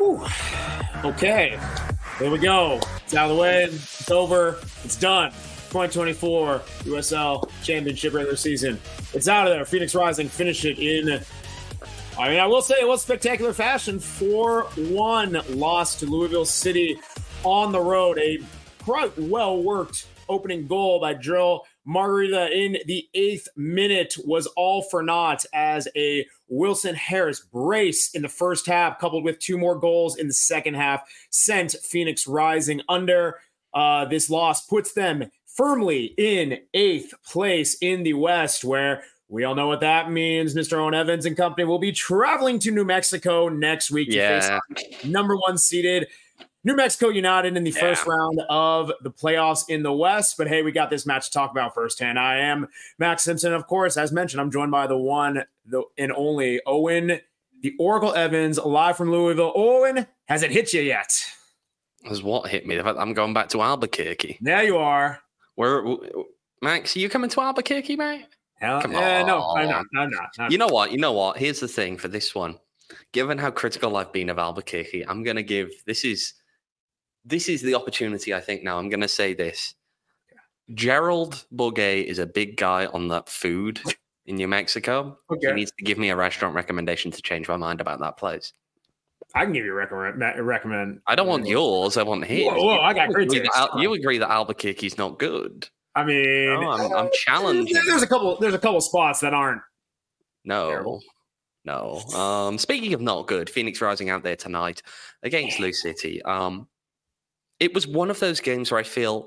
Whew. Okay, here we go. It's out of the way. It's over. It's done. 2024 USL Championship regular season. It's out of there. Phoenix Rising finished it in, I will say it was spectacular fashion. 4-1 loss to Louisville City on the road. A quite well-worked opening goal by Joel Margarita in the 8th minute was all for naught as a Wilson Harris brace in the first half, coupled with 2 more goals in the second half, sent Phoenix Rising under. This loss puts them firmly in 8th place in the West, where we all know what that means. Mr. Owen Evans and company will be traveling to New Mexico next week to face number 1 seeded New Mexico United in the first round of the playoffs in the West. But hey, we got this match to talk about firsthand. I am Max Simpson. Of course, as mentioned, I'm joined by the one and only Owen, the Oracle Evans, live from Louisville. Owen, has it hit you yet? Has what hit me? I'm going back to Albuquerque. There you are. Max, are you coming to Albuquerque, mate? Come on. No, I'm not. You know what? Here's the thing for this one. Given how critical I've been of Albuquerque, I'm going to give this is the opportunity, I think, now. I'm going to say this. Gerald Bourguet is a big guy on that food in New Mexico. Okay. He needs to give me a restaurant recommendation to change my mind about that place. I can give you a recommend. I don't want yours. I want his. Whoa, I got great taste. You agree that Albuquerque's not good? I mean, I'm challenging. There's a couple spots that aren't. No. Speaking of not good, Phoenix Rising out there tonight against Lou City. It was one of those games where I feel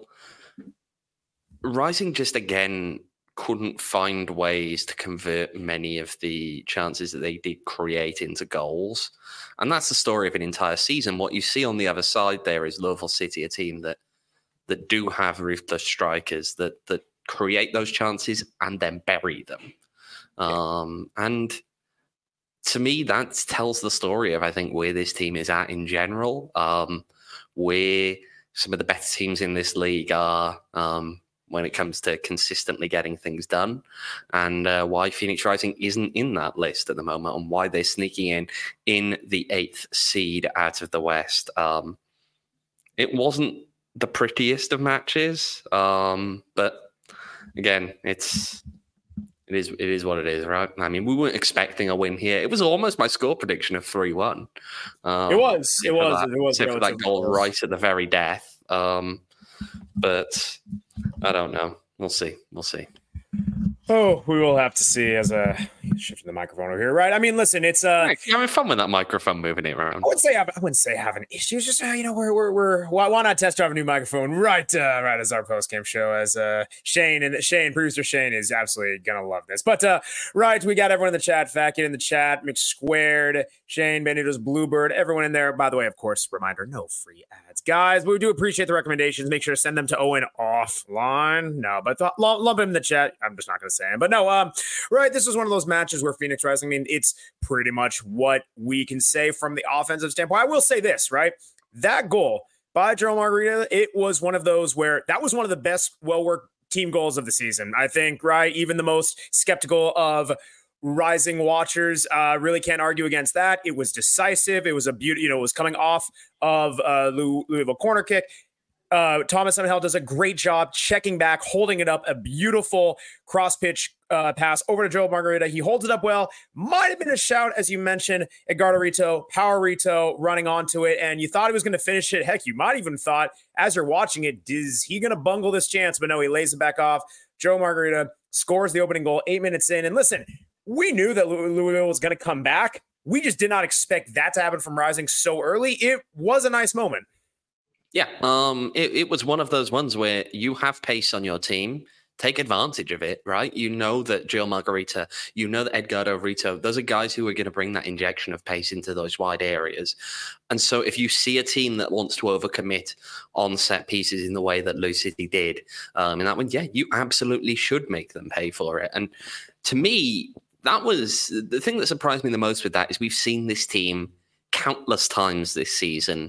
Rising just again couldn't find ways to convert many of the chances that they did create into goals. And that's the story of an entire season. What you see on the other side there is Louisville City, a team that do have ruthless strikers that create those chances and then bury them. And to me, that tells the story of, I think, where this team is at in general. Where some of the better teams in this league are when it comes to consistently getting things done, and why Phoenix Rising isn't in that list at the moment, and why they're sneaking in the 8th seed out of the West. It wasn't the prettiest of matches, but again, it is what it is, right? I mean, we weren't expecting a win here. It was almost my score prediction of 3-1. It was except for that goal right at the very death. But I don't know. We'll see. Oh, we will have to see as shifting the microphone over here, right? I mean, listen, it's you're having fun with that microphone moving it around. I wouldn't say having issues. Just we're why not test drive a new microphone right as our post game show, as producer Shane is absolutely gonna love this. But right, we got everyone in the chat. Fat Kid in the chat, McSquared, Shane, Benito's Bluebird, everyone in there. By the way, of course, reminder: no free ads, guys. But we do appreciate the recommendations. Make sure to send them to Owen offline. No, but lump him in the chat. I'm just not gonna say it. But no, right. This was one of those matches where Phoenix Rising, I mean, it's pretty much what we can say from the offensive standpoint. I will say this, right? That goal by Joel Margarita, it was one of those where that was one of the best well-worked team goals of the season. I think, right? Even the most skeptical of Rising watchers really can't argue against that. It was decisive. It was a beauty. It was coming off of Louisville corner kick. Thomas Underhill does a great job checking back, holding it up, a beautiful cross-pitch pass over to Joel Margarita. He holds it up well. Might have been a shout, as you mentioned, Edgardo Rito, Power Rito running onto it, and you thought he was going to finish it. Heck, you might even thought, as you're watching it, is he going to bungle this chance? But no, he lays it back off. Joel Margarita scores the opening goal 8 minutes in. And listen, we knew that Louisville was going to come back. We just did not expect that to happen from Rising so early. It was a nice moment. Yeah, it was one of those ones where you have pace on your team. Take advantage of it, right? You know that Joel Margarita, you know that Edgardo Rito, those are guys who are going to bring that injection of pace into those wide areas. And so if you see a team that wants to overcommit on set pieces in the way that Lou City did in that one, yeah, you absolutely should make them pay for it. And to me, that was the thing that surprised me the most with that is we've seen this team countless times this season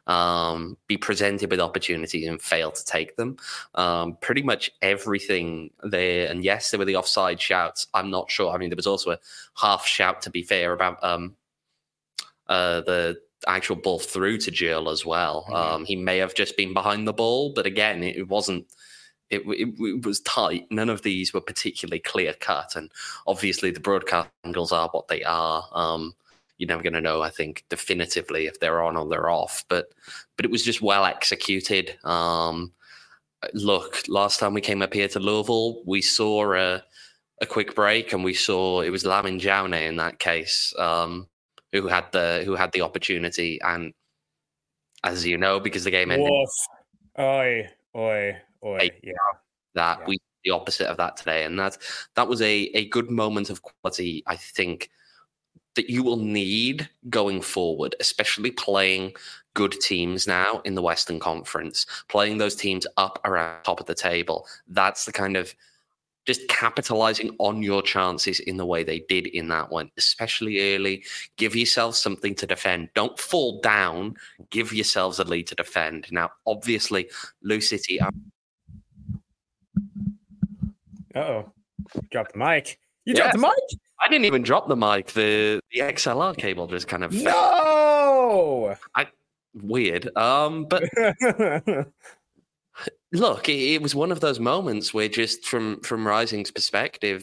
be presented with opportunities and fail to take them. Pretty much everything there. And yes, there were the offside shouts. I'm not sure. I mean, there was also a half shout, to be fair, about the actual ball through to Gil as well. He may have just been behind the ball, but again, it wasn't. It was tight. None of these were particularly clear cut, and obviously the broadcast angles are what they are. You're never going to know, I think, definitively if they're on or they're off. But it was just well executed. Look, last time we came up here to Louisville, we saw a quick break, and we saw it was Lamin Jaune in that case who had the opportunity, and as you know, because the game ended. Oi. Yeah. That we the opposite of that today, and that was a good moment of quality, I think, that you will need going forward, especially playing good teams now in the Western Conference, playing those teams up around top of the table. That's the kind of just capitalizing on your chances in the way they did in that one, especially early. Give yourself something to defend. Don't fall down. Give yourselves a lead to defend. Now, obviously, Lou City. Uh-oh. Dropped the mic. You dropped the mic? I didn't even drop the mic. The XLR cable just kind of... No! Weird. But... Look, it was one of those moments where just from Rising's perspective,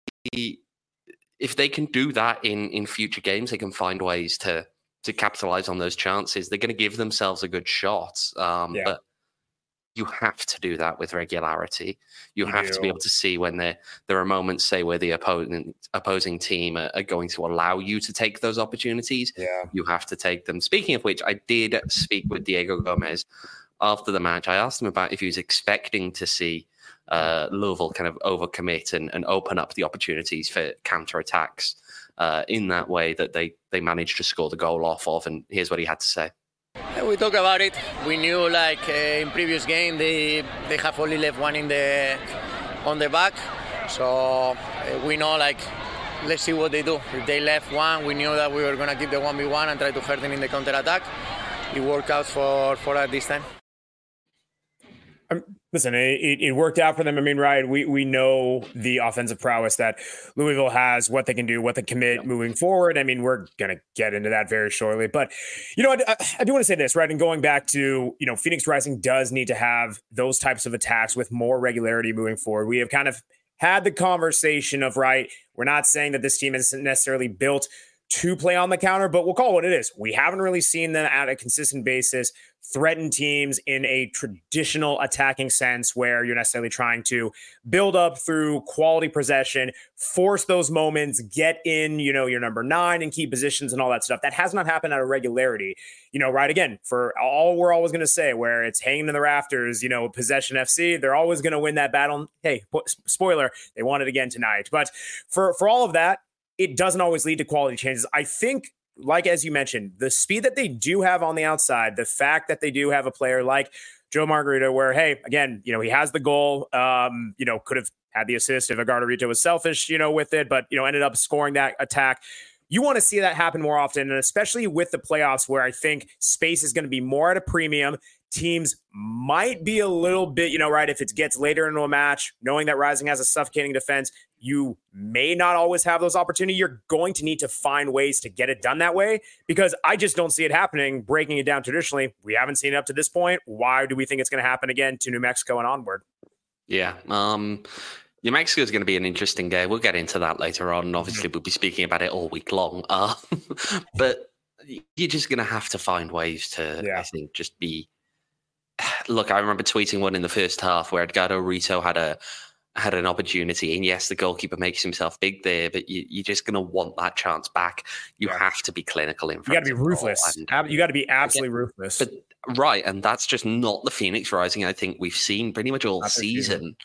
if they can do that in future games, they can find ways to capitalize on those chances. They're going to give themselves a good shot. But you have to do that with regularity. You have to be able to see when there are moments, say, where the opposing team are going to allow you to take those opportunities. Yeah. You have to take them. Speaking of which, I did speak with Diego Gomez after the match. I asked him about if he was expecting to see Louisville kind of overcommit and open up the opportunities for counterattacks in that way that they managed to score the goal off of. And here's what he had to say. We talked about it. We knew, like in previous game, they have only left one on the back. So we know, like, let's see what they do. If they left one, we knew that we were going to keep the 1v1 and try to hurt them in the counter-attack. It worked out for us this time. Listen, it worked out for them. I mean, Ryan, we know the offensive prowess that Louisville has, what they can do, what they commit moving forward. I mean, we're going to get into that very shortly. But, you know, I do want to say this, right? And going back to, you know, Phoenix Rising does need to have those types of attacks with more regularity moving forward. We have kind of had the conversation of, right, we're not saying that this team isn't necessarily built to play on the counter, but we'll call it what it is. We haven't really seen them at a consistent basis threaten teams in a traditional attacking sense where you're necessarily trying to build up through quality possession, force those moments, get in, you know, your number 9 and key positions and all that stuff. That has not happened at a regularity, you know, right? Again, for all we're always going to say where it's hanging in the rafters, you know, possession FC, they're always going to win that battle. Hey, spoiler, they won it again tonight. But for all of that, it doesn't always lead to quality changes. I think, like, as you mentioned, the speed that they do have on the outside, the fact that they do have a player like Joe Margarita, where, hey, again, you know, he has the goal, you know, could have had the assist if Agardarito was selfish, you know, with it, but, you know, ended up scoring that attack. You want to see that happen more often, and especially with the playoffs where I think space is going to be more at a premium. Teams might be a little bit, you know, right, if it gets later into a match, knowing that Rising has a suffocating defense, you may not always have those opportunities. You're going to need to find ways to get it done that way, because I just don't see it happening, breaking it down traditionally. We haven't seen it up to this point. Why do we think it's going to happen again to New Mexico and onward? Yeah. New Mexico is going to be an interesting game. We'll get into that later on. And obviously, we'll be speaking about it all week long. But you're just going to have to find ways to, I think, just be... Look, I remember tweeting one in the first half where Agardarito had an opportunity, and yes, the goalkeeper makes himself big there, but you're just going to want that chance back. You have to be clinical in front. You got to be ruthless. You got to be absolutely ruthless. But right, and that's just not the Phoenix Rising I think we've seen pretty much all season.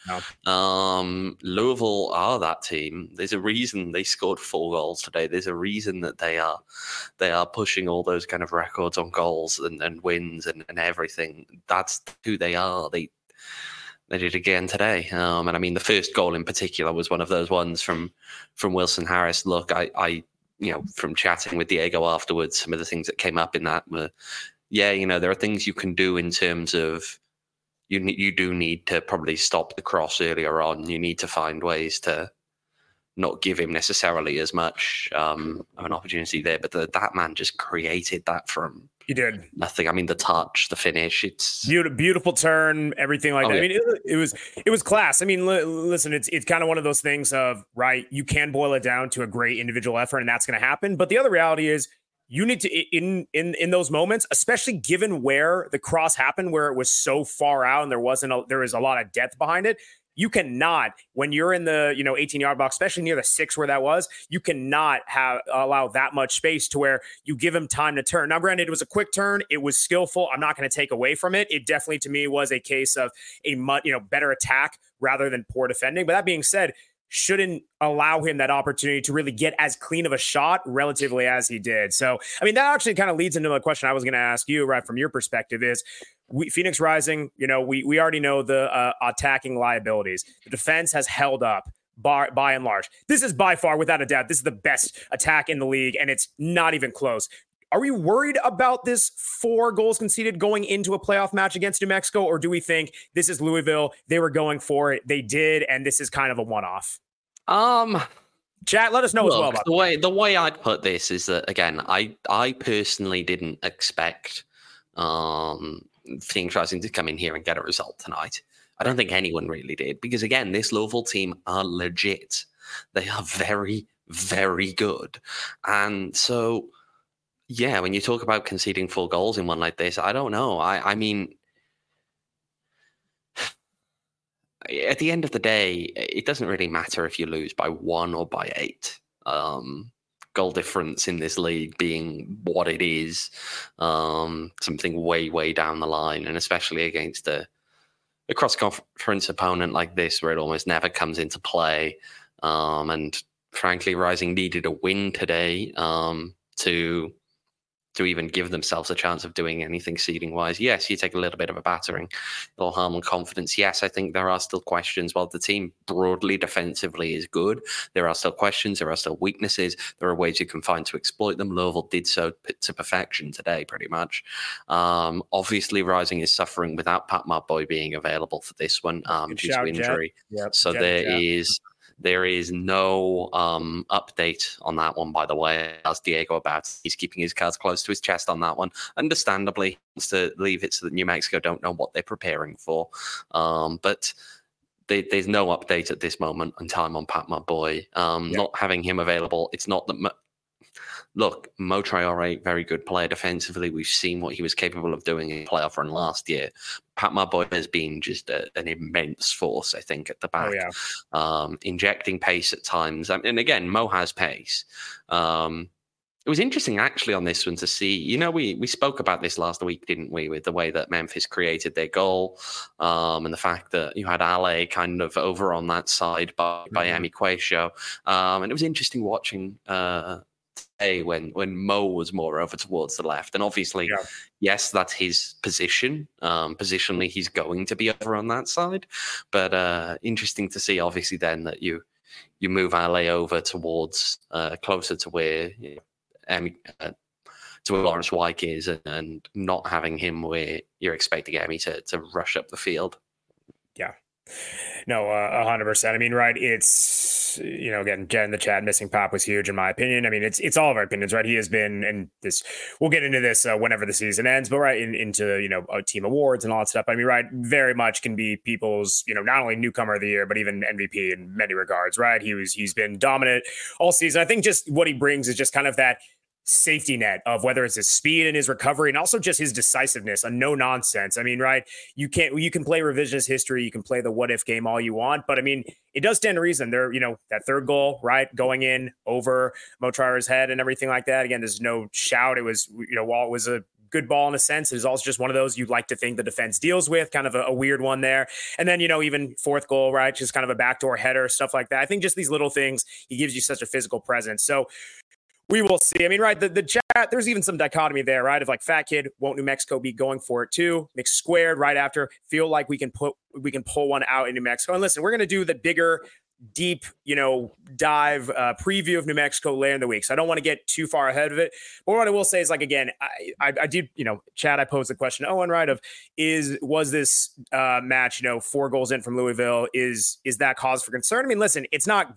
No. Louisville are that team. There's a reason they scored 4 goals today. There's a reason that they are pushing all those kind of records on goals and wins and everything. That's who they are. They did again today. And I mean, the first goal in particular was one of those ones from Wilson Harris. Look, I you know, from chatting with Diego afterwards, some of the things that came up in that were, you know, there are things you can do in terms of you do need to probably stop the cross earlier on. You need to find ways to not give him necessarily as much of an opportunity there. But that man just created that from he did nothing. I mean, the touch, the finish, it's beautiful turn, everything like that. Yeah. I mean, it was class. I mean, listen, it's kind of one of those things of, right, you can boil it down to a great individual effort, and that's going to happen. But the other reality is, you need to, in those moments, especially given where the cross happened, where it was so far out and there was a lot of depth behind it. You cannot, when you're in the 18-yard box, especially near the 6 where that was, you cannot allow that much space to where you give him time to turn. Now, granted, it was a quick turn. It was skillful. I'm not going to take away from it. It definitely, to me, was a case of a better attack rather than poor defending. But that being said, shouldn't allow him that opportunity to really get as clean of a shot relatively as he did. So, I mean, that actually kind of leads into the question I was going to ask you, right, from your perspective is, Phoenix Rising, we already know the attacking liabilities. The defense has held up by and large. This is by far, without a doubt, this is the best attack in the league, and it's not even close. Are we worried about this 4 goals conceded going into a playoff match against New Mexico, or do we think this is Louisville? They were going for it. They did, and this is kind of a one-off? Chat, let us know as well about the way I'd put this is that, again, I personally didn't expect Phoenix Rising to come in here and get a result tonight. I don't think anyone really did, because again, this Louisville team are legit. They are very, very good. And so, yeah, when you talk about conceding 4 goals in one like this, I don't know. I mean, at the end of the day, it doesn't really matter if you lose by 1 or by 8. Goal difference in this league being what it is, something way, way down the line, and especially against a cross-conference opponent like this, where it almost never comes into play. And frankly, Rising needed a win today to even give themselves a chance of doing anything seeding-wise. Yes, you take a little bit of a battering, it'll harm on confidence. Yes, I think there are still questions. While the team broadly defensively is good, there are still questions, there are still weaknesses, there are ways you can find to exploit them. Louisville did so to perfection today, pretty much. Obviously, Rising is suffering without Pat Marboy being available for this one due to injury. Yep, so there is no update on that one, by the way. As Diego about, he's keeping his cards close to his chest on that one. Understandably, he wants to leave it so that New Mexico don't know what they're preparing for. But there's no update at this moment in time on Pat Marboy. Not having him available, it's not that... Look, Mo Traore, very good player defensively. We've seen what he was capable of doing in playoff run last year. Pat Marboy has been just an immense force, I think, at the back. Injecting pace at times. And again, Mo has pace. It was interesting, actually, on this one to see, we spoke about this last week, didn't we, with the way that Memphis created their goal and the fact that you had Ale kind of over on that side by Emi Quayshow. And it was interesting watching... when Mo was more over towards the left. And obviously, yes, that's his position. Positionally, he's going to be over on that side. But interesting to see, obviously, then that you move Ale over towards closer to where to where Lawrence Wyke is, and not having him where you're expecting Emi to rush up the field. Yeah. No, 100%. I mean, right. It's, again, Jen in the chat, missing Pop was huge in my opinion. I mean, it's all of our opinions, right? He has been, and this, we'll get into this whenever the season ends, but right into, team awards and all that stuff. I mean, right. Very much can be people's, not only newcomer of the year, but even MVP in many regards, right? He's been dominant all season. I think just what he brings is just kind of that safety net of whether it's his speed and his recovery and also just his decisiveness, a no nonsense. I mean, right. You can play revisionist history. You can play the what if game all you want, but I mean, it does stand to reason there, that third goal, right. Going in over Mo Traore's head and everything like that. Again, there's no shout. It was, while it was a good ball in a sense, it's also just one of those you'd like to think the defense deals with, kind of a weird one there. And then, even fourth goal, right. Just kind of a backdoor header, stuff like that. I think just these little things, he gives you such a physical presence. So we will see. I mean, right, the chat, there's even some dichotomy there, right, of like Fat Kid, won't New Mexico be going for it too? Mixed Squared right after, feel like we can pull one out in New Mexico. And listen, we're going to do the bigger, deep, dive preview of New Mexico later in the week. So I don't want to get too far ahead of it. But what I will say is, like, again, I did, Chad, I posed the question, Owen, right, of was this match, 4 goals in from Louisville, is that cause for concern? I mean, listen, it's not great.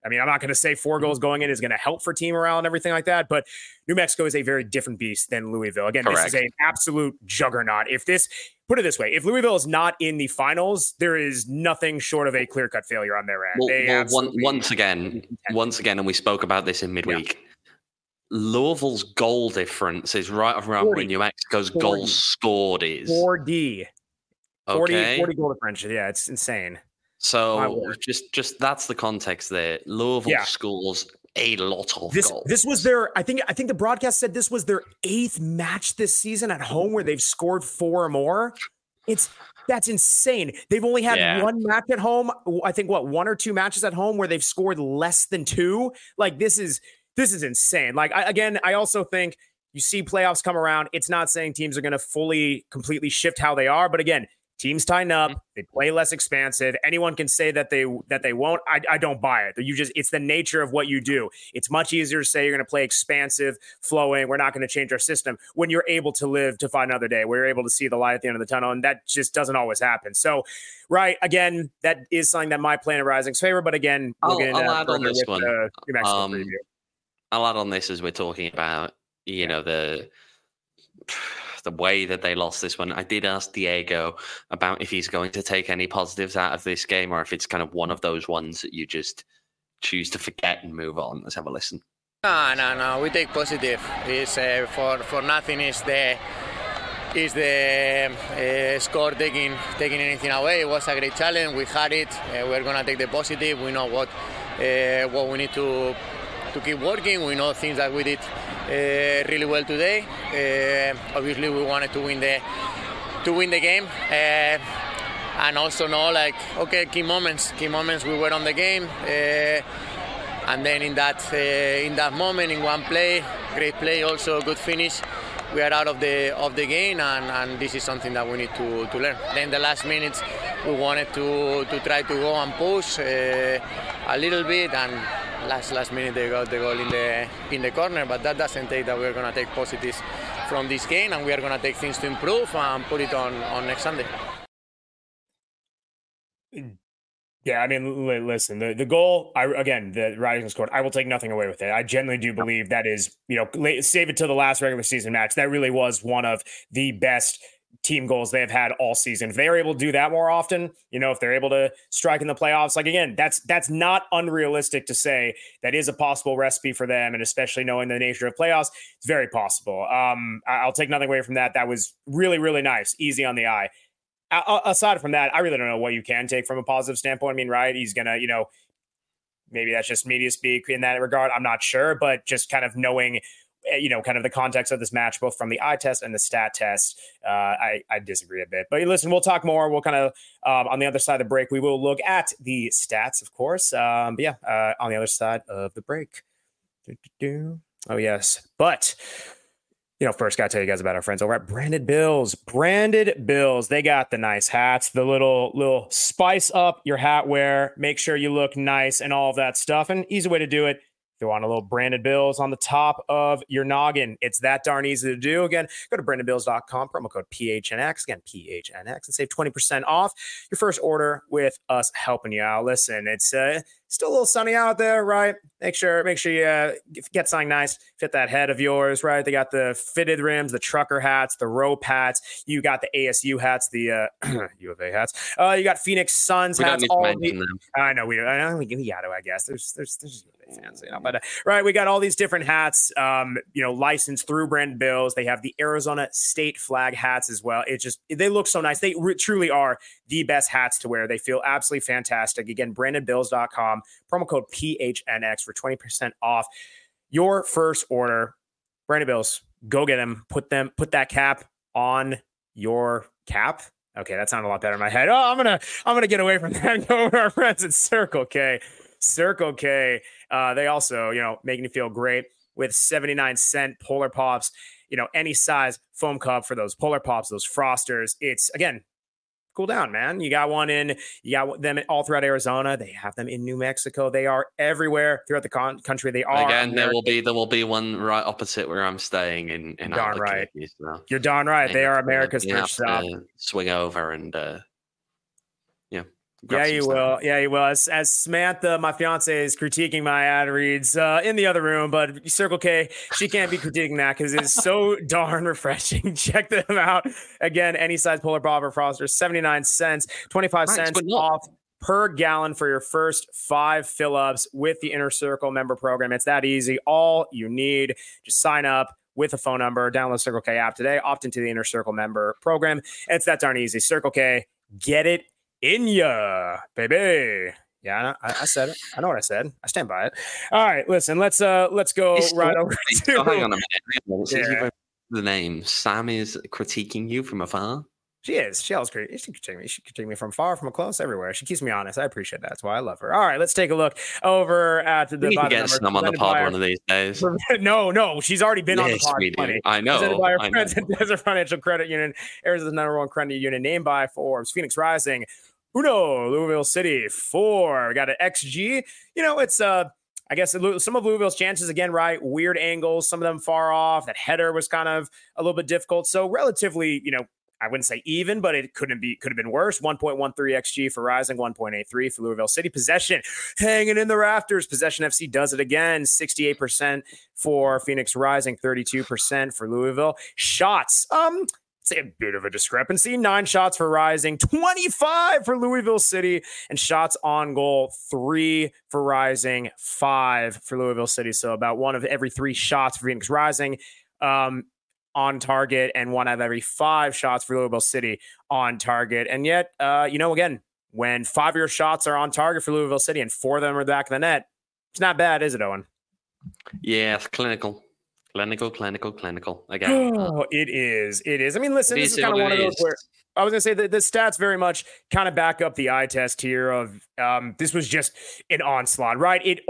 I mean, I'm not going to say 4 goals going in is going to help for team morale and everything like that, but New Mexico is a very different beast than Louisville. Again, Correct. This is an absolute juggernaut. Put it this way, if Louisville is not in the finals, there is nothing short of a clear-cut failure on their end. Once again, and we spoke about this in midweek, Louisville's goal difference is right around where New Mexico's goals scored is. 4D. 40 goal differential. Yeah, it's insane. So just that's the context there. Louisville scores a lot of goals. This was their, I think the broadcast said this was their 8th match this season at home where they've scored 4 or more. That's insane. They've only had 1 match at home. I think 1 or 2 matches at home where they've scored less than 2. Like this is insane. Like I also think you see playoffs come around. It's not saying teams are going to completely shift how they are, but again, teams tighten up. They play less expansive. Anyone can say that they won't. I don't buy it. It's the nature of what you do. It's much easier to say you're going to play expansive, flowing. We're not going to change our system when you're able to live to fight another day. We're able to see the light at the end of the tunnel, and that just doesn't always happen. So, right, again, that is something that might play in Rising's favor. But again, I'll add on this one. I'll add on this as we're talking about, the way that they lost this one. I did ask Diego about if he's going to take any positives out of this game or if it's kind of one of those ones that you just choose to forget and move on. Let's have a listen. No. We take positive. It's for nothing is the score taking anything away. It was a great challenge. We had it. We're gonna take the positive. We know what we need to keep working. We know things that we did really well today. Obviously, we wanted to win the game, and also know key moments. We were on the game, and then in that moment, in one play, great play, also good finish. We are out of the game, and this is something that we need to learn. Then the last minutes, we wanted to try to go and push a little bit, and last minute they got the goal in the corner. But that doesn't take that we're gonna take positives from this game, and we are gonna take things to improve and put it on next Sunday. Yeah, I mean, listen, the goal, the Rising scored, I will take nothing away with it. I genuinely do believe that is, save it to the last regular season match. That really was one of the best team goals they have had all season. If they're able to do that more often, if they're able to strike in the playoffs, that's not unrealistic to say. That is a possible recipe for them, and especially knowing the nature of playoffs, it's very possible. I'll take nothing away from that. That was really, really nice, easy on the eye. Aside from that, I really don't know what you can take from a positive standpoint. I mean, right, he's going to, maybe that's just media speak in that regard. I'm not sure, but just kind of knowing, kind of the context of this match, both from the eye test and the stat test, I disagree a bit. But listen, we'll talk more. We'll kind of, on the other side of the break, we will look at the stats, of course. On the other side of the break. Oh, yes. But... first got to tell you guys about our friends over at Branded Bills. Branded Bills, they got the nice hats, the little spice up your hat wear, make sure you look nice and all of that stuff. And easy way to do it, throw on a little Branded Bills on the top of your noggin. It's that darn easy to do. Again, go to brandedbills.com, promo code PHNX, again, PHNX, and save 20% off your first order with us helping you out. Listen, it's still a little sunny out there, right? Make sure you get something nice, fit that head of yours, right? They got the fitted rims, the trucker hats, the rope hats. You got the ASU hats, the U of A hats. You got Phoenix Suns hats. I know we got to. I guess there's fans, But right, we got all these different hats, licensed through Branded Bills. They have the Arizona State flag hats as well. They look so nice. They truly are the best hats to wear. They feel absolutely fantastic. Again, brandedbills.com, promo code PHNX for 20% off your first order. Branded Bills, go get them. Put that cap on your cap. Okay, that sounded a lot better in my head. Oh, I'm gonna get away from that and go over to our friends at Circle K. Circle K, they also, making you feel great with 79-cent Polar Pops, any size foam cup for those Polar Pops, those Frosters. It's, again, cool down, man. You got them all throughout Arizona. They have them in New Mexico. They are everywhere throughout the country. They are. Again, there will be one right opposite where I'm staying in darn right. You're darn right. They are America's first stop. Swing over and Yeah, you will. Yeah, you will. As Samantha, my fiance, is critiquing my ad reads in the other room, but Circle K, she can't be critiquing that because it's so darn refreshing. Check them out. Again, any size polar bobber froster, 79 cents, 25 cents off per gallon for your first 5 fill-ups with the Inner Circle member program. It's that easy. All you need, just sign up with a phone number, download Circle K app today, opt into the Inner Circle member program. It's that darn easy. Circle K, get it in ya, baby. Yeah, I said it. I know what I said. I stand by it. All right, listen. Let's go right over to. Hang on a minute. Yeah. The name Sam is critiquing you from afar. She is. She always critique. She critique me. She critique me from far, from close, everywhere. She keeps me honest. I appreciate that. That's why I love her. All right, let's take a look over at the. We need to get some on the pod one of these days. No, she's already been on the pod. I know. Presented by our friends at Desert Financial Credit Union, Arizona's #1 credit union, named by Forbes, Phoenix Rising, Uno, Louisville City 4. We got an XG. It's I guess some of Louisville's chances, again, right? Weird angles, some of them far off. That header was kind of a little bit difficult. So relatively, I wouldn't say even, but it could have been worse. 1.13 XG for Rising, 1.83 for Louisville City. Possession hanging in the rafters. Possession FC does it again. 68% for Phoenix Rising, 32% for Louisville. Shots, it's a bit of a discrepancy. 9 shots for Rising, 25 for Louisville City, and shots on goal, 3 for Rising, 5 for Louisville City. So about 1 of every 3 shots for Phoenix Rising on target, and 1 out of every 5 shots for Louisville City on target. And yet, again, when 5 of your shots are on target for Louisville City and 4 of them are back of the net, it's not bad, is it, Owen? Yeah, it's clinical. Again. Oh, it is. I mean, listen, this is kind of one of those where I was going to say that the stats very much kind of back up the eye test here of this was just an onslaught, right? I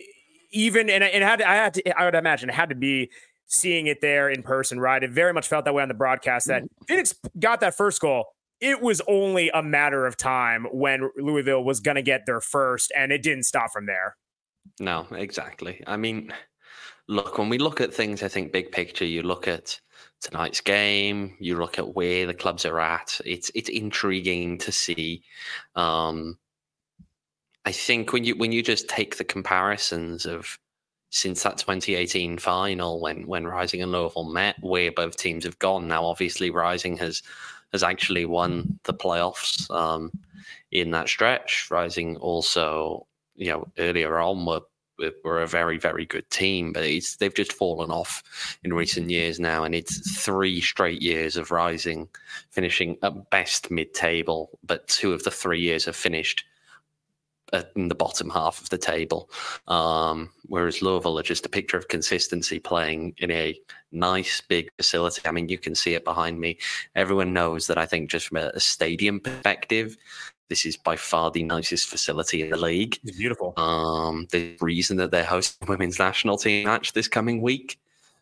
would imagine it had to be seeing it there in person, right? It very much felt that way on the broadcast that Phoenix got that first goal. It was only a matter of time when Louisville was going to get their first, and it didn't stop from there. No, exactly. I mean, look, when we look at things, I think big picture, you look at tonight's game, you look at where the clubs are at. It's intriguing to see. I think when you just take the comparisons of since that 2018 final when Rising and Louisville met, where both teams have gone. Now, obviously, Rising has actually won the playoffs in that stretch. Rising also, earlier on were a very, very good team, but they've just fallen off in recent years now, and it's 3 straight years of Rising finishing at best mid-table, but 2 of the 3 years have finished in the bottom half of the table, whereas Louisville are just a picture of consistency, playing in a nice big facility. I mean, you can see it behind me. Everyone knows that I think just from a stadium perspective, this is by far the nicest facility in the league. It's beautiful. The reason that they're hosting a women's national team match this coming week.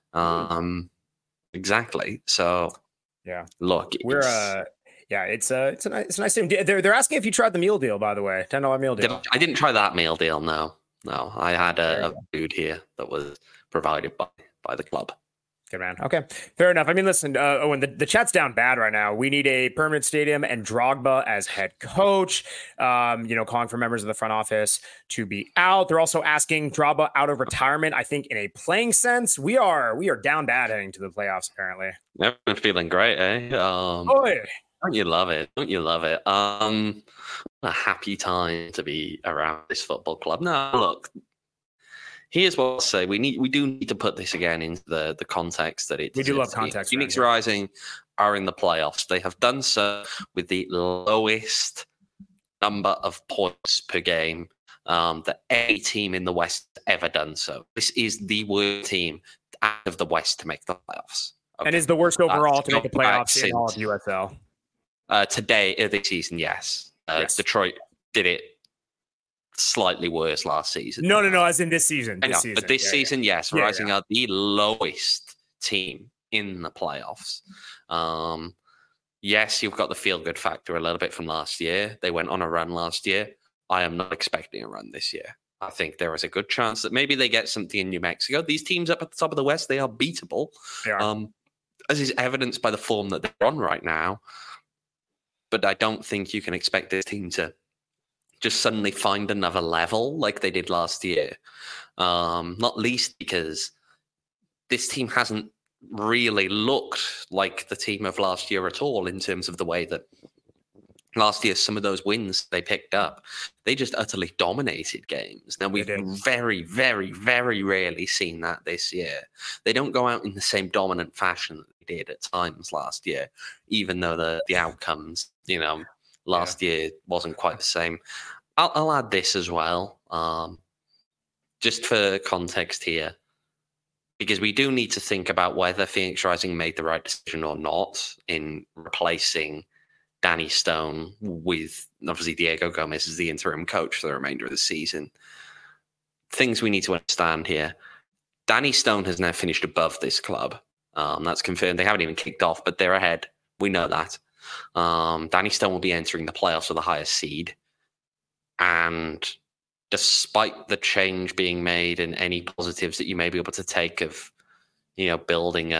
Exactly. So, yeah. Look, it's a nice team. They're asking if you tried the meal deal, by the way, $10 meal deal. I didn't try that meal deal. No. I had a food here that was provided by the club. Good man. Okay, fair enough. I mean, listen, Owen, the chat's down bad right now. We need a permanent stadium and Drogba as head coach. Calling for members of the front office to be out. They're also asking Drogba out of retirement. I think in a playing sense, we are down bad heading to the playoffs. Apparently, never been feeling great, eh? Don't you love it? A happy time to be around this football club. Now, look, here's what I'll say. We do need to put this again into the context that it. We do love context. Phoenix Rising are in the playoffs. They have done so with the lowest number of points per game that any team in the West ever done so. This is the worst team out of the West to make the playoffs. Okay. And is the worst overall to make the playoffs in all of USL. This season, yes. Yes. Detroit did it slightly worse last season. No, as in this season. But this season, yes, Rising are the lowest team in the playoffs. Yes, you've got the feel-good factor a little bit from last year. They went on a run last year. I am not expecting a run this year. I think there is a good chance that maybe they get something in New Mexico. These teams up at the top of the West, they are beatable. They are. As is evidenced by the form that they're on right now. But I don't think you can expect this team to just suddenly find another level like they did last year. Not least because this team hasn't really looked like the team of last year at all in terms of the way that last year, some of those wins they picked up, they just utterly dominated games. Now, we've very, very, very rarely seen that this year. They don't go out in the same dominant fashion that they did at times last year, even though the outcomes, last year wasn't quite the same. I'll add this as well, just for context here, because we do need to think about whether Phoenix Rising made the right decision or not in replacing Danny Stone with, obviously, Diego Gomez as the interim coach for the remainder of the season. Things we need to understand here. Danny Stone has now finished above this club. That's confirmed. They haven't even kicked off, but they're ahead. We know that. Danny Stone will be entering the playoffs with the highest seed. And despite the change being made and any positives that you may be able to take of, building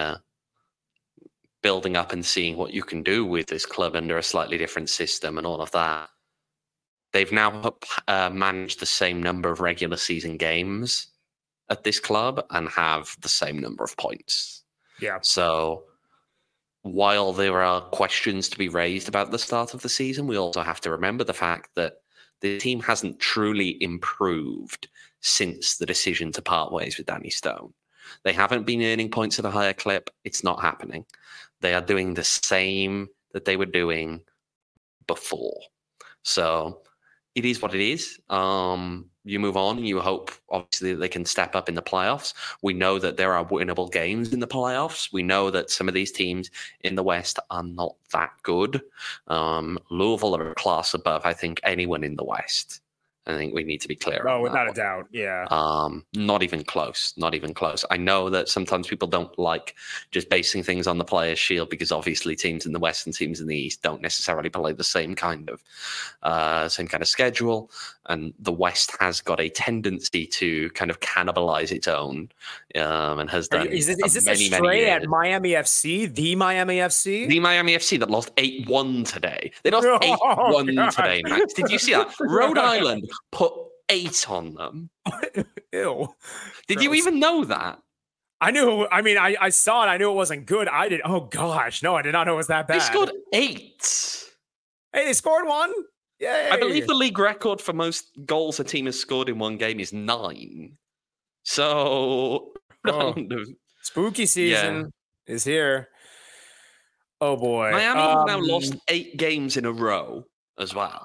up and seeing what you can do with this club under a slightly different system and all of that, they've now managed the same number of regular season games at this club and have the same number of points. Yeah. So while there are questions to be raised about the start of the season, we also have to remember the fact that the team hasn't truly improved since the decision to part ways with Danny Stone. They haven't been earning points at a higher clip. It's not happening. They are doing the same that they were doing before. So it is what it is. You move on and you hope, obviously, that they can step up in the playoffs. We know that there are winnable games in the playoffs. We know that some of these teams in the West are not that good. Louisville are a class above, I think, anyone in the West. I think we need to be clear. Oh, without a doubt. Yeah. Not even close. Not even close. I know that sometimes people don't like just basing things on the players' shield because obviously teams in the West and teams in the East don't necessarily play the same kind of schedule. And the West has got a tendency to kind of cannibalize its own, and has done. Is this a stray at Miami FC? The Miami FC? The Miami FC that lost 8-1 today. They lost 8-1 today, Max. Did you see that? Rhode Island put 8 on them. Ew. Did you even know that? I knew. I mean, I saw it. I knew it wasn't good. I did. Oh, gosh. No, I did not know it was that bad. They scored 8. Hey, they scored 1? Yeah. I believe the league record for most goals a team has scored in one game is 9. So, spooky season is here. Oh, boy. Miami have now lost 8 games in a row as well.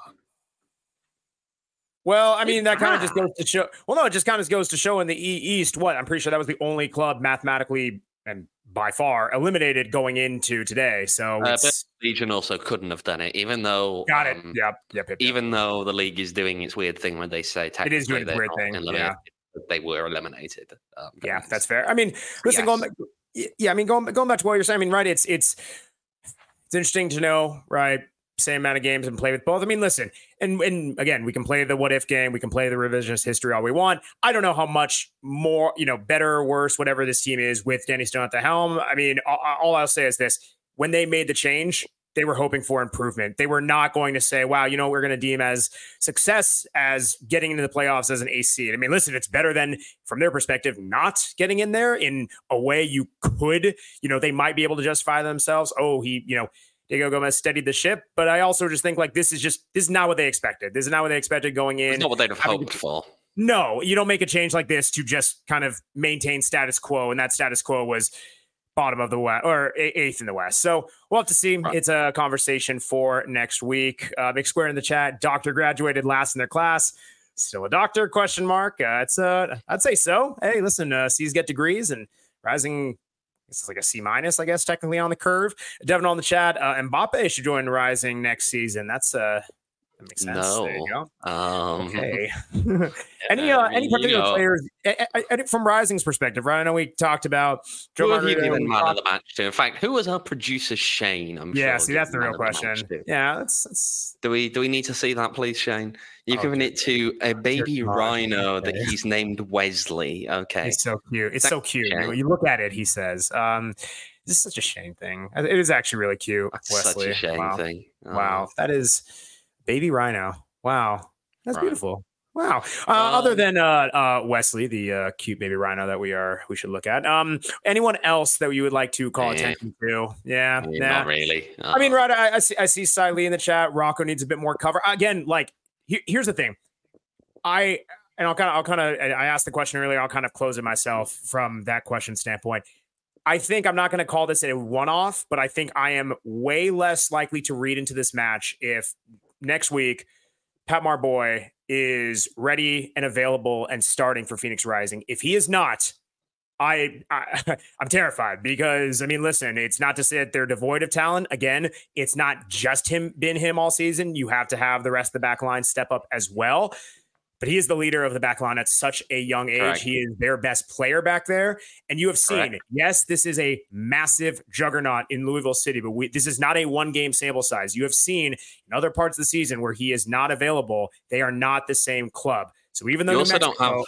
Well, I mean, that kind of just goes to show. Well, no, it just kind of goes to show in the East. What? I'm pretty sure that was the only club mathematically and by far eliminated going into today. So Legion also couldn't have done it, even though. Got it. Yep. Even though the league is doing its weird thing when they say technically it is doing its weird thing. Yeah. They were eliminated. Yeah, that's fair. I mean, listen, going back to what you're saying. I mean, right? It's interesting to know, right? Same amount of games and play with both. I mean, listen, and again, we can play the what if game. We can play the revisionist history all we want. I don't know how much more, better or worse, whatever this team is with Danny Stone at the helm. I mean, all I'll say is this. When they made the change, they were hoping for improvement. They were not going to say, wow, we're going to deem as success as getting into the playoffs as an AC. I mean, listen, it's better than, from their perspective, not getting in there in a way you could, they might be able to justify themselves. Oh, Diego Gomez steadied the ship, but I also just think this is not what they expected. This is not what they expected going in. It's not what they'd have hoped for. No, you don't make a change like this to just kind of maintain status quo, and that status quo was bottom of the West or 8th in the West. So we'll have to see. Right. It's a conversation for next week. Big Square in the chat. Doctor graduated last in their class. Still a doctor? ? I'd say so. Hey, listen, C's get degrees and Rising. It's like a C-, I guess, technically on the curve. Devin on the chat. Mbappe should join Rising next season. That makes sense. No. There you go. Okay. Any particular players from Rising's perspective, right? I know we talked about Joe. Who have you given man of the match to? In fact, who was our producer Shane? See, that's the real question. Yeah, that's. Do we need to see that, please, Shane? You've given it to a baby rhino that he's named Wesley. Okay, it's so cute. It's so cute. You look at it. He says, "This is such a Shane thing." It is actually really cute. That's Wesley. such a Shane thing. Wow, that is baby rhino. Wow. That's beautiful. Wow. Other than Wesley, the cute baby rhino that we should look at. Anyone else that you would like to call attention to? Yeah, not really. I mean, right. I see Cy Lee in the chat. Rocco needs a bit more cover. Again, like here's the thing. I asked the question earlier. I'll kind of close it myself from that question standpoint. I think I'm not going to call this a one-off, but I think I am way less likely to read into this match if next week Pat Marboy is ready and available and starting for Phoenix Rising. If he is not, I'm terrified because, I mean, listen, it's not to say that they're devoid of talent. Again, it's not just been him all season. You have to have the rest of the back line step up as well. But he is the leader of the back line at such a young age. Correct. He is their best player back there. And you have seen, yes, this is a massive juggernaut in Louisville City, but this is not a one-game sample size. You have seen in other parts of the season where he is not available, they are not the same club. So even though New Mexico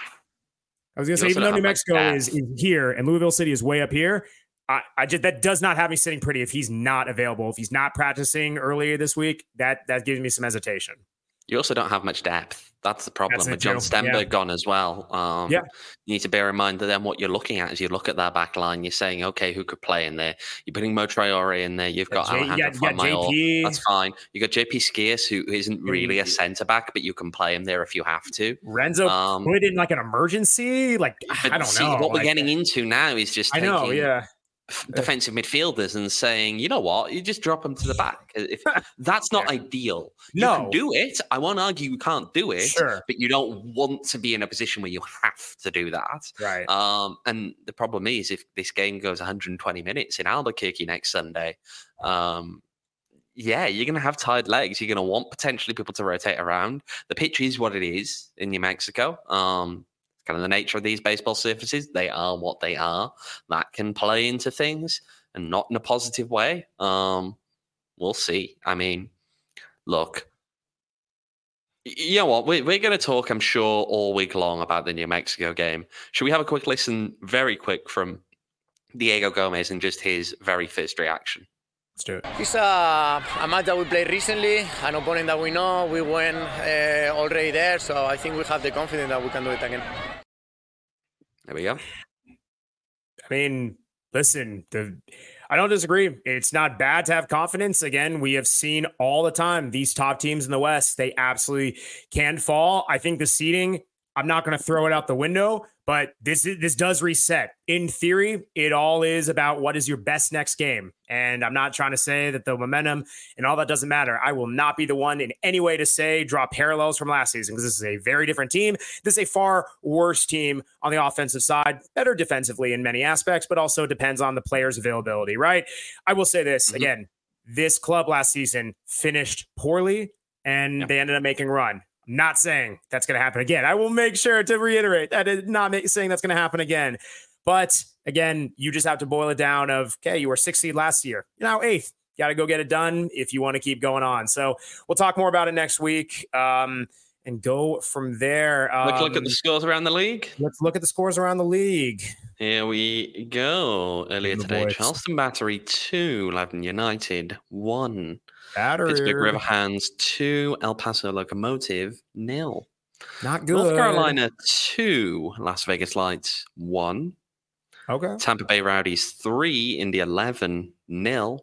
is here and Louisville City is way up here, that does not have me sitting pretty if he's not available. If he's not practicing earlier this week, that gives me some hesitation. You also don't have much depth. That's the problem with John Stenberg gone as well. You need to bear in mind that then what you're looking at is you look at that back line, you're saying, okay, who could play in there? You're putting Mo Traore in there. You've got Alejandro Fuenmayor. That's fine. You got JP Skiers, who isn't really a centre back, but you can play him there if you have to. Renzo put in like an emergency. Like, I don't know. What we're getting into now is just defensive midfielders and saying, you know what, you just drop them to the back. If that's not ideal. You can do it. I won't argue you can't do it, but you don't want to be in a position where you have to do that. Right. And the problem is if this game goes 120 minutes in Albuquerque next Sunday, you're going to have tired legs. You're going to want potentially people to rotate around. The pitch is what it is in New Mexico. Kind of the nature of these baseball surfaces. They are what they are. That can play into things and not in a positive way. We'll see. I mean, look, you know what? We're going to talk, I'm sure, all week long about the New Mexico game. Should we have a quick listen, very quick, from Diego Gomez and just his very first reaction? Let's do it. It's a match that we played recently, an opponent that we know. We went already there, so I think we have the confidence that we can do it again. There we go. I mean, listen, I don't disagree. It's not bad to have confidence. Again, we have seen all the time these top teams in the West, they absolutely can fall. I think the seeding, I'm not going to throw it out the window, but this does reset. In theory, it all is about what is your best next game. And I'm not trying to say that the momentum and all that doesn't matter. I will not be the one in any way to say draw parallels from last season because this is a very different team. This is a far worse team on the offensive side, better defensively in many aspects, but also depends on the players' availability, right? I will say this again, this club last season finished poorly and they ended up making a run. Not saying that's going to happen again. I will make sure to reiterate that is not saying that's going to happen again. But again, you just have to boil it down of, okay, you were 6th seed last year. You're now 8th. Got to go get it done if you want to keep going on. So we'll talk more about it next week and go from there. Let's look at the scores around the league. Let's look at the scores around the league. Here we go. Earlier today, Charleston Battery 2, Loudoun United 1. Pittsburgh Riverhands 2, El Paso Locomotive 0. Not good. North Carolina 2, Las Vegas Lights 1. Okay. Tampa Bay Rowdies 3, Indy 11 0.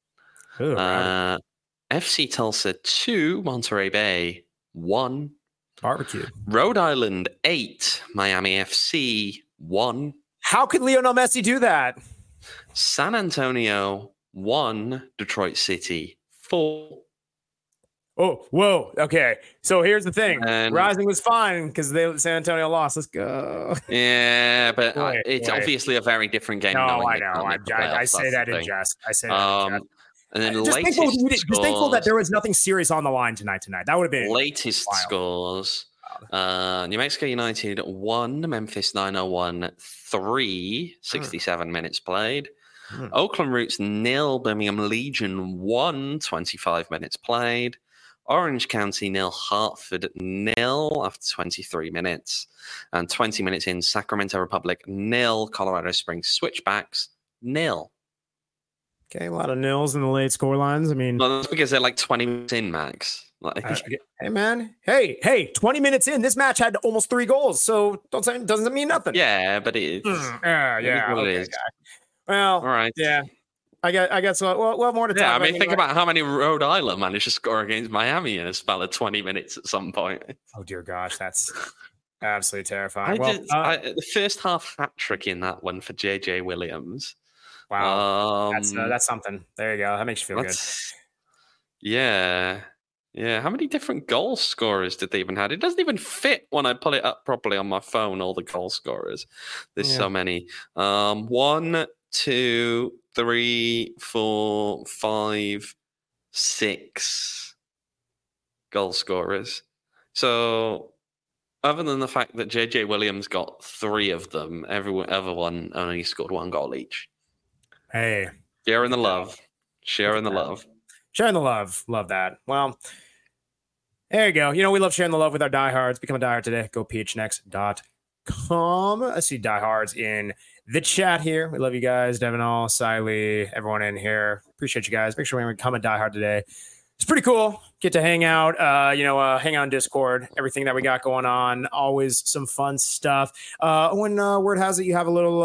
FC Tulsa 2, Monterey Bay 1. Barbecue. Rhode Island 8, Miami FC 1. How could Lionel Messi do that? San Antonio 1, Detroit City 4. Oh, whoa. Okay. So here's the thing. Rising was fine because San Antonio lost. Let's go. Yeah, but it's obviously a very different game. No, I know. I say that in jest. I say that in jest. And then just thankful that there was nothing serious on the line tonight. That would have been latest wild. Scores. New Mexico United 1, Memphis 901 3, 67 minutes played. Oakland Roots 0, Birmingham Legion 1, 25 minutes played. Orange County 0, Hartford 0 after 23 minutes. And 20 minutes in, Sacramento Republic 0, Colorado Springs Switchbacks 0. Okay, a lot of nils in the late score lines. I mean, well, that's because they're like 20 minutes in, Max. Hey, man. Hey, 20 minutes in, this match had almost 3 goals. So doesn't mean nothing. Yeah, but it's yeah. what Okay, it is. guy. Well, all right. Yeah. I guess well more to talk about. I mean, think about how many Rhode Island managed to score against Miami in a spell of 20 minutes at some point. Oh, dear gosh. That's absolutely terrifying. The first half hat trick in that one for JJ Williams. Wow. That's something. There you go. That makes you feel good. Yeah. Yeah. How many different goal scorers did they even have? It doesn't even fit when I pull it up properly on my phone, all the goal scorers. There's so many. 1, 2, 3, 4, 5, 6 goal scorers. So, other than the fact that JJ Williams got 3 of them, everyone only scored 1 goal each. Hey, sharing the love. Sharing the love. Love that. Well, there you go. We love sharing the love with our diehards. Become a diehard today. Go phnx.com. I see diehards in the chat here. We love you guys. Devin All, Siley, everyone in here. Appreciate you guys. Make sure we become a diehard today. It's pretty cool. Get to hang out, hang out on Discord, everything that we got going on. Always some fun stuff. When word has it, you have a little,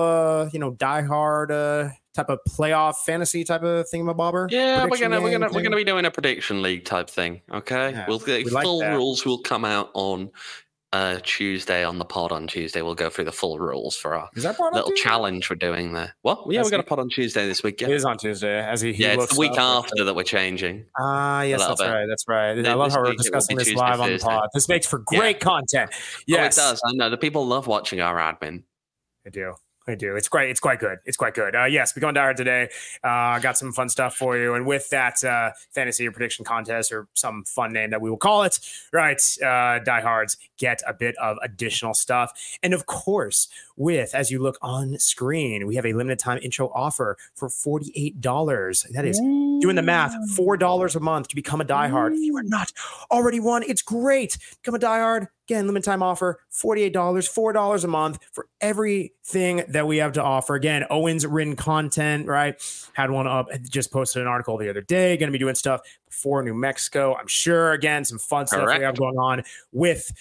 diehard type of playoff fantasy type of thingamabobber. Yeah, we're gonna be doing a prediction league type thing. Okay, yeah, full rules will come out on Tuesday on the pod on Tuesday. We'll go through the full rules for our little challenge we're doing there. What? Yeah, we're going to pod on Tuesday this week. Yeah. It is on Tuesday. It's the week after that we're changing. Yes, that's right. I love how we're discussing this live on the pod. This makes for great content. Yes, it does. I know the people love watching our admin. I do. It's great. It's quite good. Yes, become a diehard today. Got some fun stuff for you. And with that fantasy or prediction contest or some fun name that we will call it, right? Diehards get a bit of additional stuff. And of course, as you look on screen, we have a limited time intro offer for $48. That is doing the math, $4 a month to become a diehard. If you are not already one, it's great. Become a diehard. Again, limited time offer, $48, $4 a month for everything that we have to offer. Again, Owen's written content, right? Had one up, just posted an article the other day. Going to be doing stuff before New Mexico, I'm sure. Again, some fun stuff we have going on with,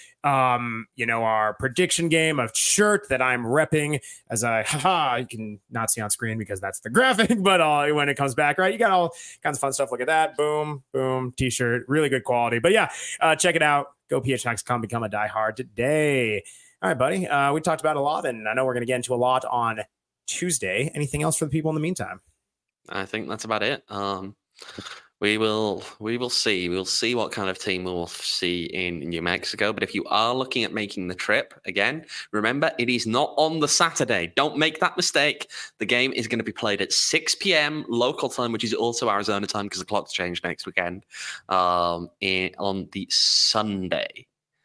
our prediction game of shirt that I'm repping as you can not see on screen because that's the graphic, but when it comes back, right? You got all kinds of fun stuff. Look at that. Boom, boom, t-shirt, really good quality. But yeah, check it out. Go phnx.com, become a diehard today. All right, buddy. We talked about a lot, and I know we're going to get into a lot on Tuesday. Anything else for the people in the meantime? I think that's about it. We will see. We'll see what kind of team we'll see in New Mexico. But if you are looking at making the trip, again, remember, it is not on the Saturday. Don't make that mistake. The game is going to be played at 6 p.m. local time, which is also Arizona time because the clock's changed next weekend, on the Sunday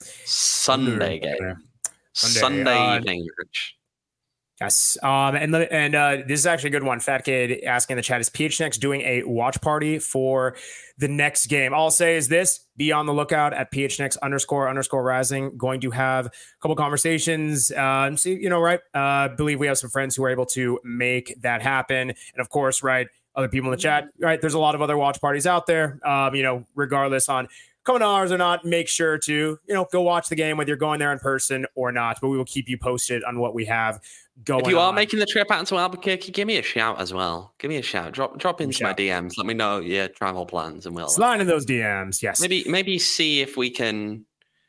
game. Sunday evening, Rich. Yes. And this is actually a good one. Fat Kid asking in the chat, is PHNX doing a watch party for the next game? All I'll say is this: be on the lookout at PHNX__rising. Going to have a couple conversations. Believe we have some friends who are able to make that happen. And of course, right, other people in the chat, right? There's a lot of other watch parties out there. Regardless on coming to ours or not, make sure to, go watch the game, whether you're going there in person or not. But we will keep you posted on what we have going on. If you are making the trip out to Albuquerque, give me a shout as well. Give me a shout. Drop into my DMs. Let me know your travel plans, and we'll slide in those DMs. Yes. Maybe see if we can.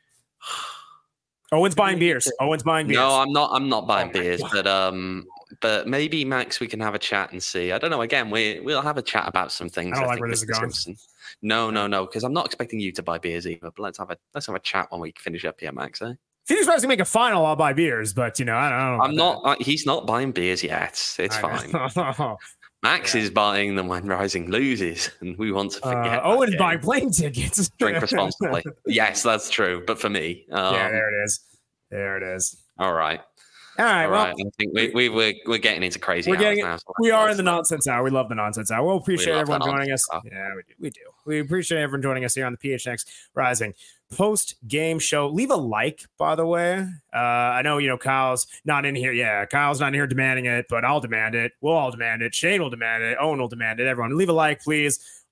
Owen's buying beers. No, I'm not buying beers, but maybe Max, we can have a chat and see. I don't know. Again, we'll have a chat about some things. I don't like where this is going. No, because I'm not expecting you to buy beers either. But let's have a chat when we finish up here, Max. Eh? If he's supposed to make a final, I'll buy beers. But I don't know. I'm not. He's not buying beers yet. It's fine. Max is buying them when Rising loses, and we want to forget. Owen's buying plane tickets. Drink responsibly. Yes, that's true. But for me, there it is. All right. All right. I think we're getting into crazy hours now. So we are in the nonsense hour. We love the nonsense hour. We'll appreciate everyone joining us. Yeah, we do. We appreciate everyone joining us here on the PHNX Rising post-game show. Leave a like, by the way. I know, Kyle's not in here. Yeah, Kyle's not in here demanding it, but I'll demand it. We'll all demand it. Shane will demand it. Owen will demand it. Everyone, leave a like, please.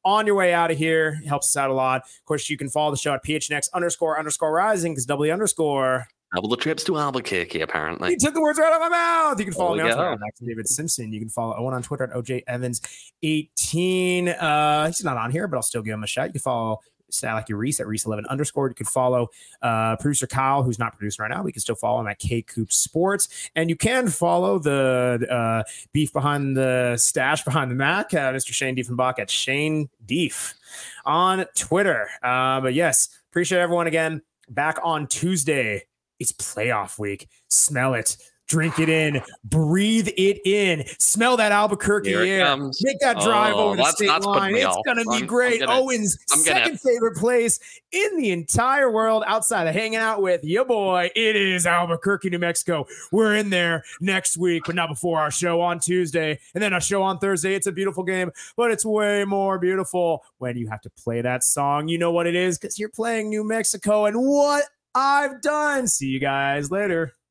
on your way out of here. It helps us out a lot. Of course, you can follow the show at PHNX__rising because W underscore. Double the trips to Albuquerque, apparently. You took the words right out of my mouth. You can follow me on Twitter go. at Max David Simpson. You can follow Owen on Twitter at OJ Evans18. He's not on here, but I'll still give him a shout. You can follow Like Reese at Reese11 _. You can follow producer Kyle, who's not producing right now. We can still follow him at K-Coop Sports. And you can follow the beef behind the stash behind the Mac, Mr. Shane Diefenbach at Shane Dief on Twitter. But yes, appreciate everyone again. Back on Tuesday. It's playoff week. Smell it. Drink it in. Breathe it in. Smell that Albuquerque air. Comes. Make that drive over the state line. It's going to be great. Owen's second favorite place in the entire world outside of hanging out with your boy. It is Albuquerque, New Mexico. We're in there next week, but not before our show on Tuesday. And then our show on Thursday. It's a beautiful game, but it's way more beautiful when you have to play that song. You know what it is because you're playing New Mexico and what I've done. See you guys later.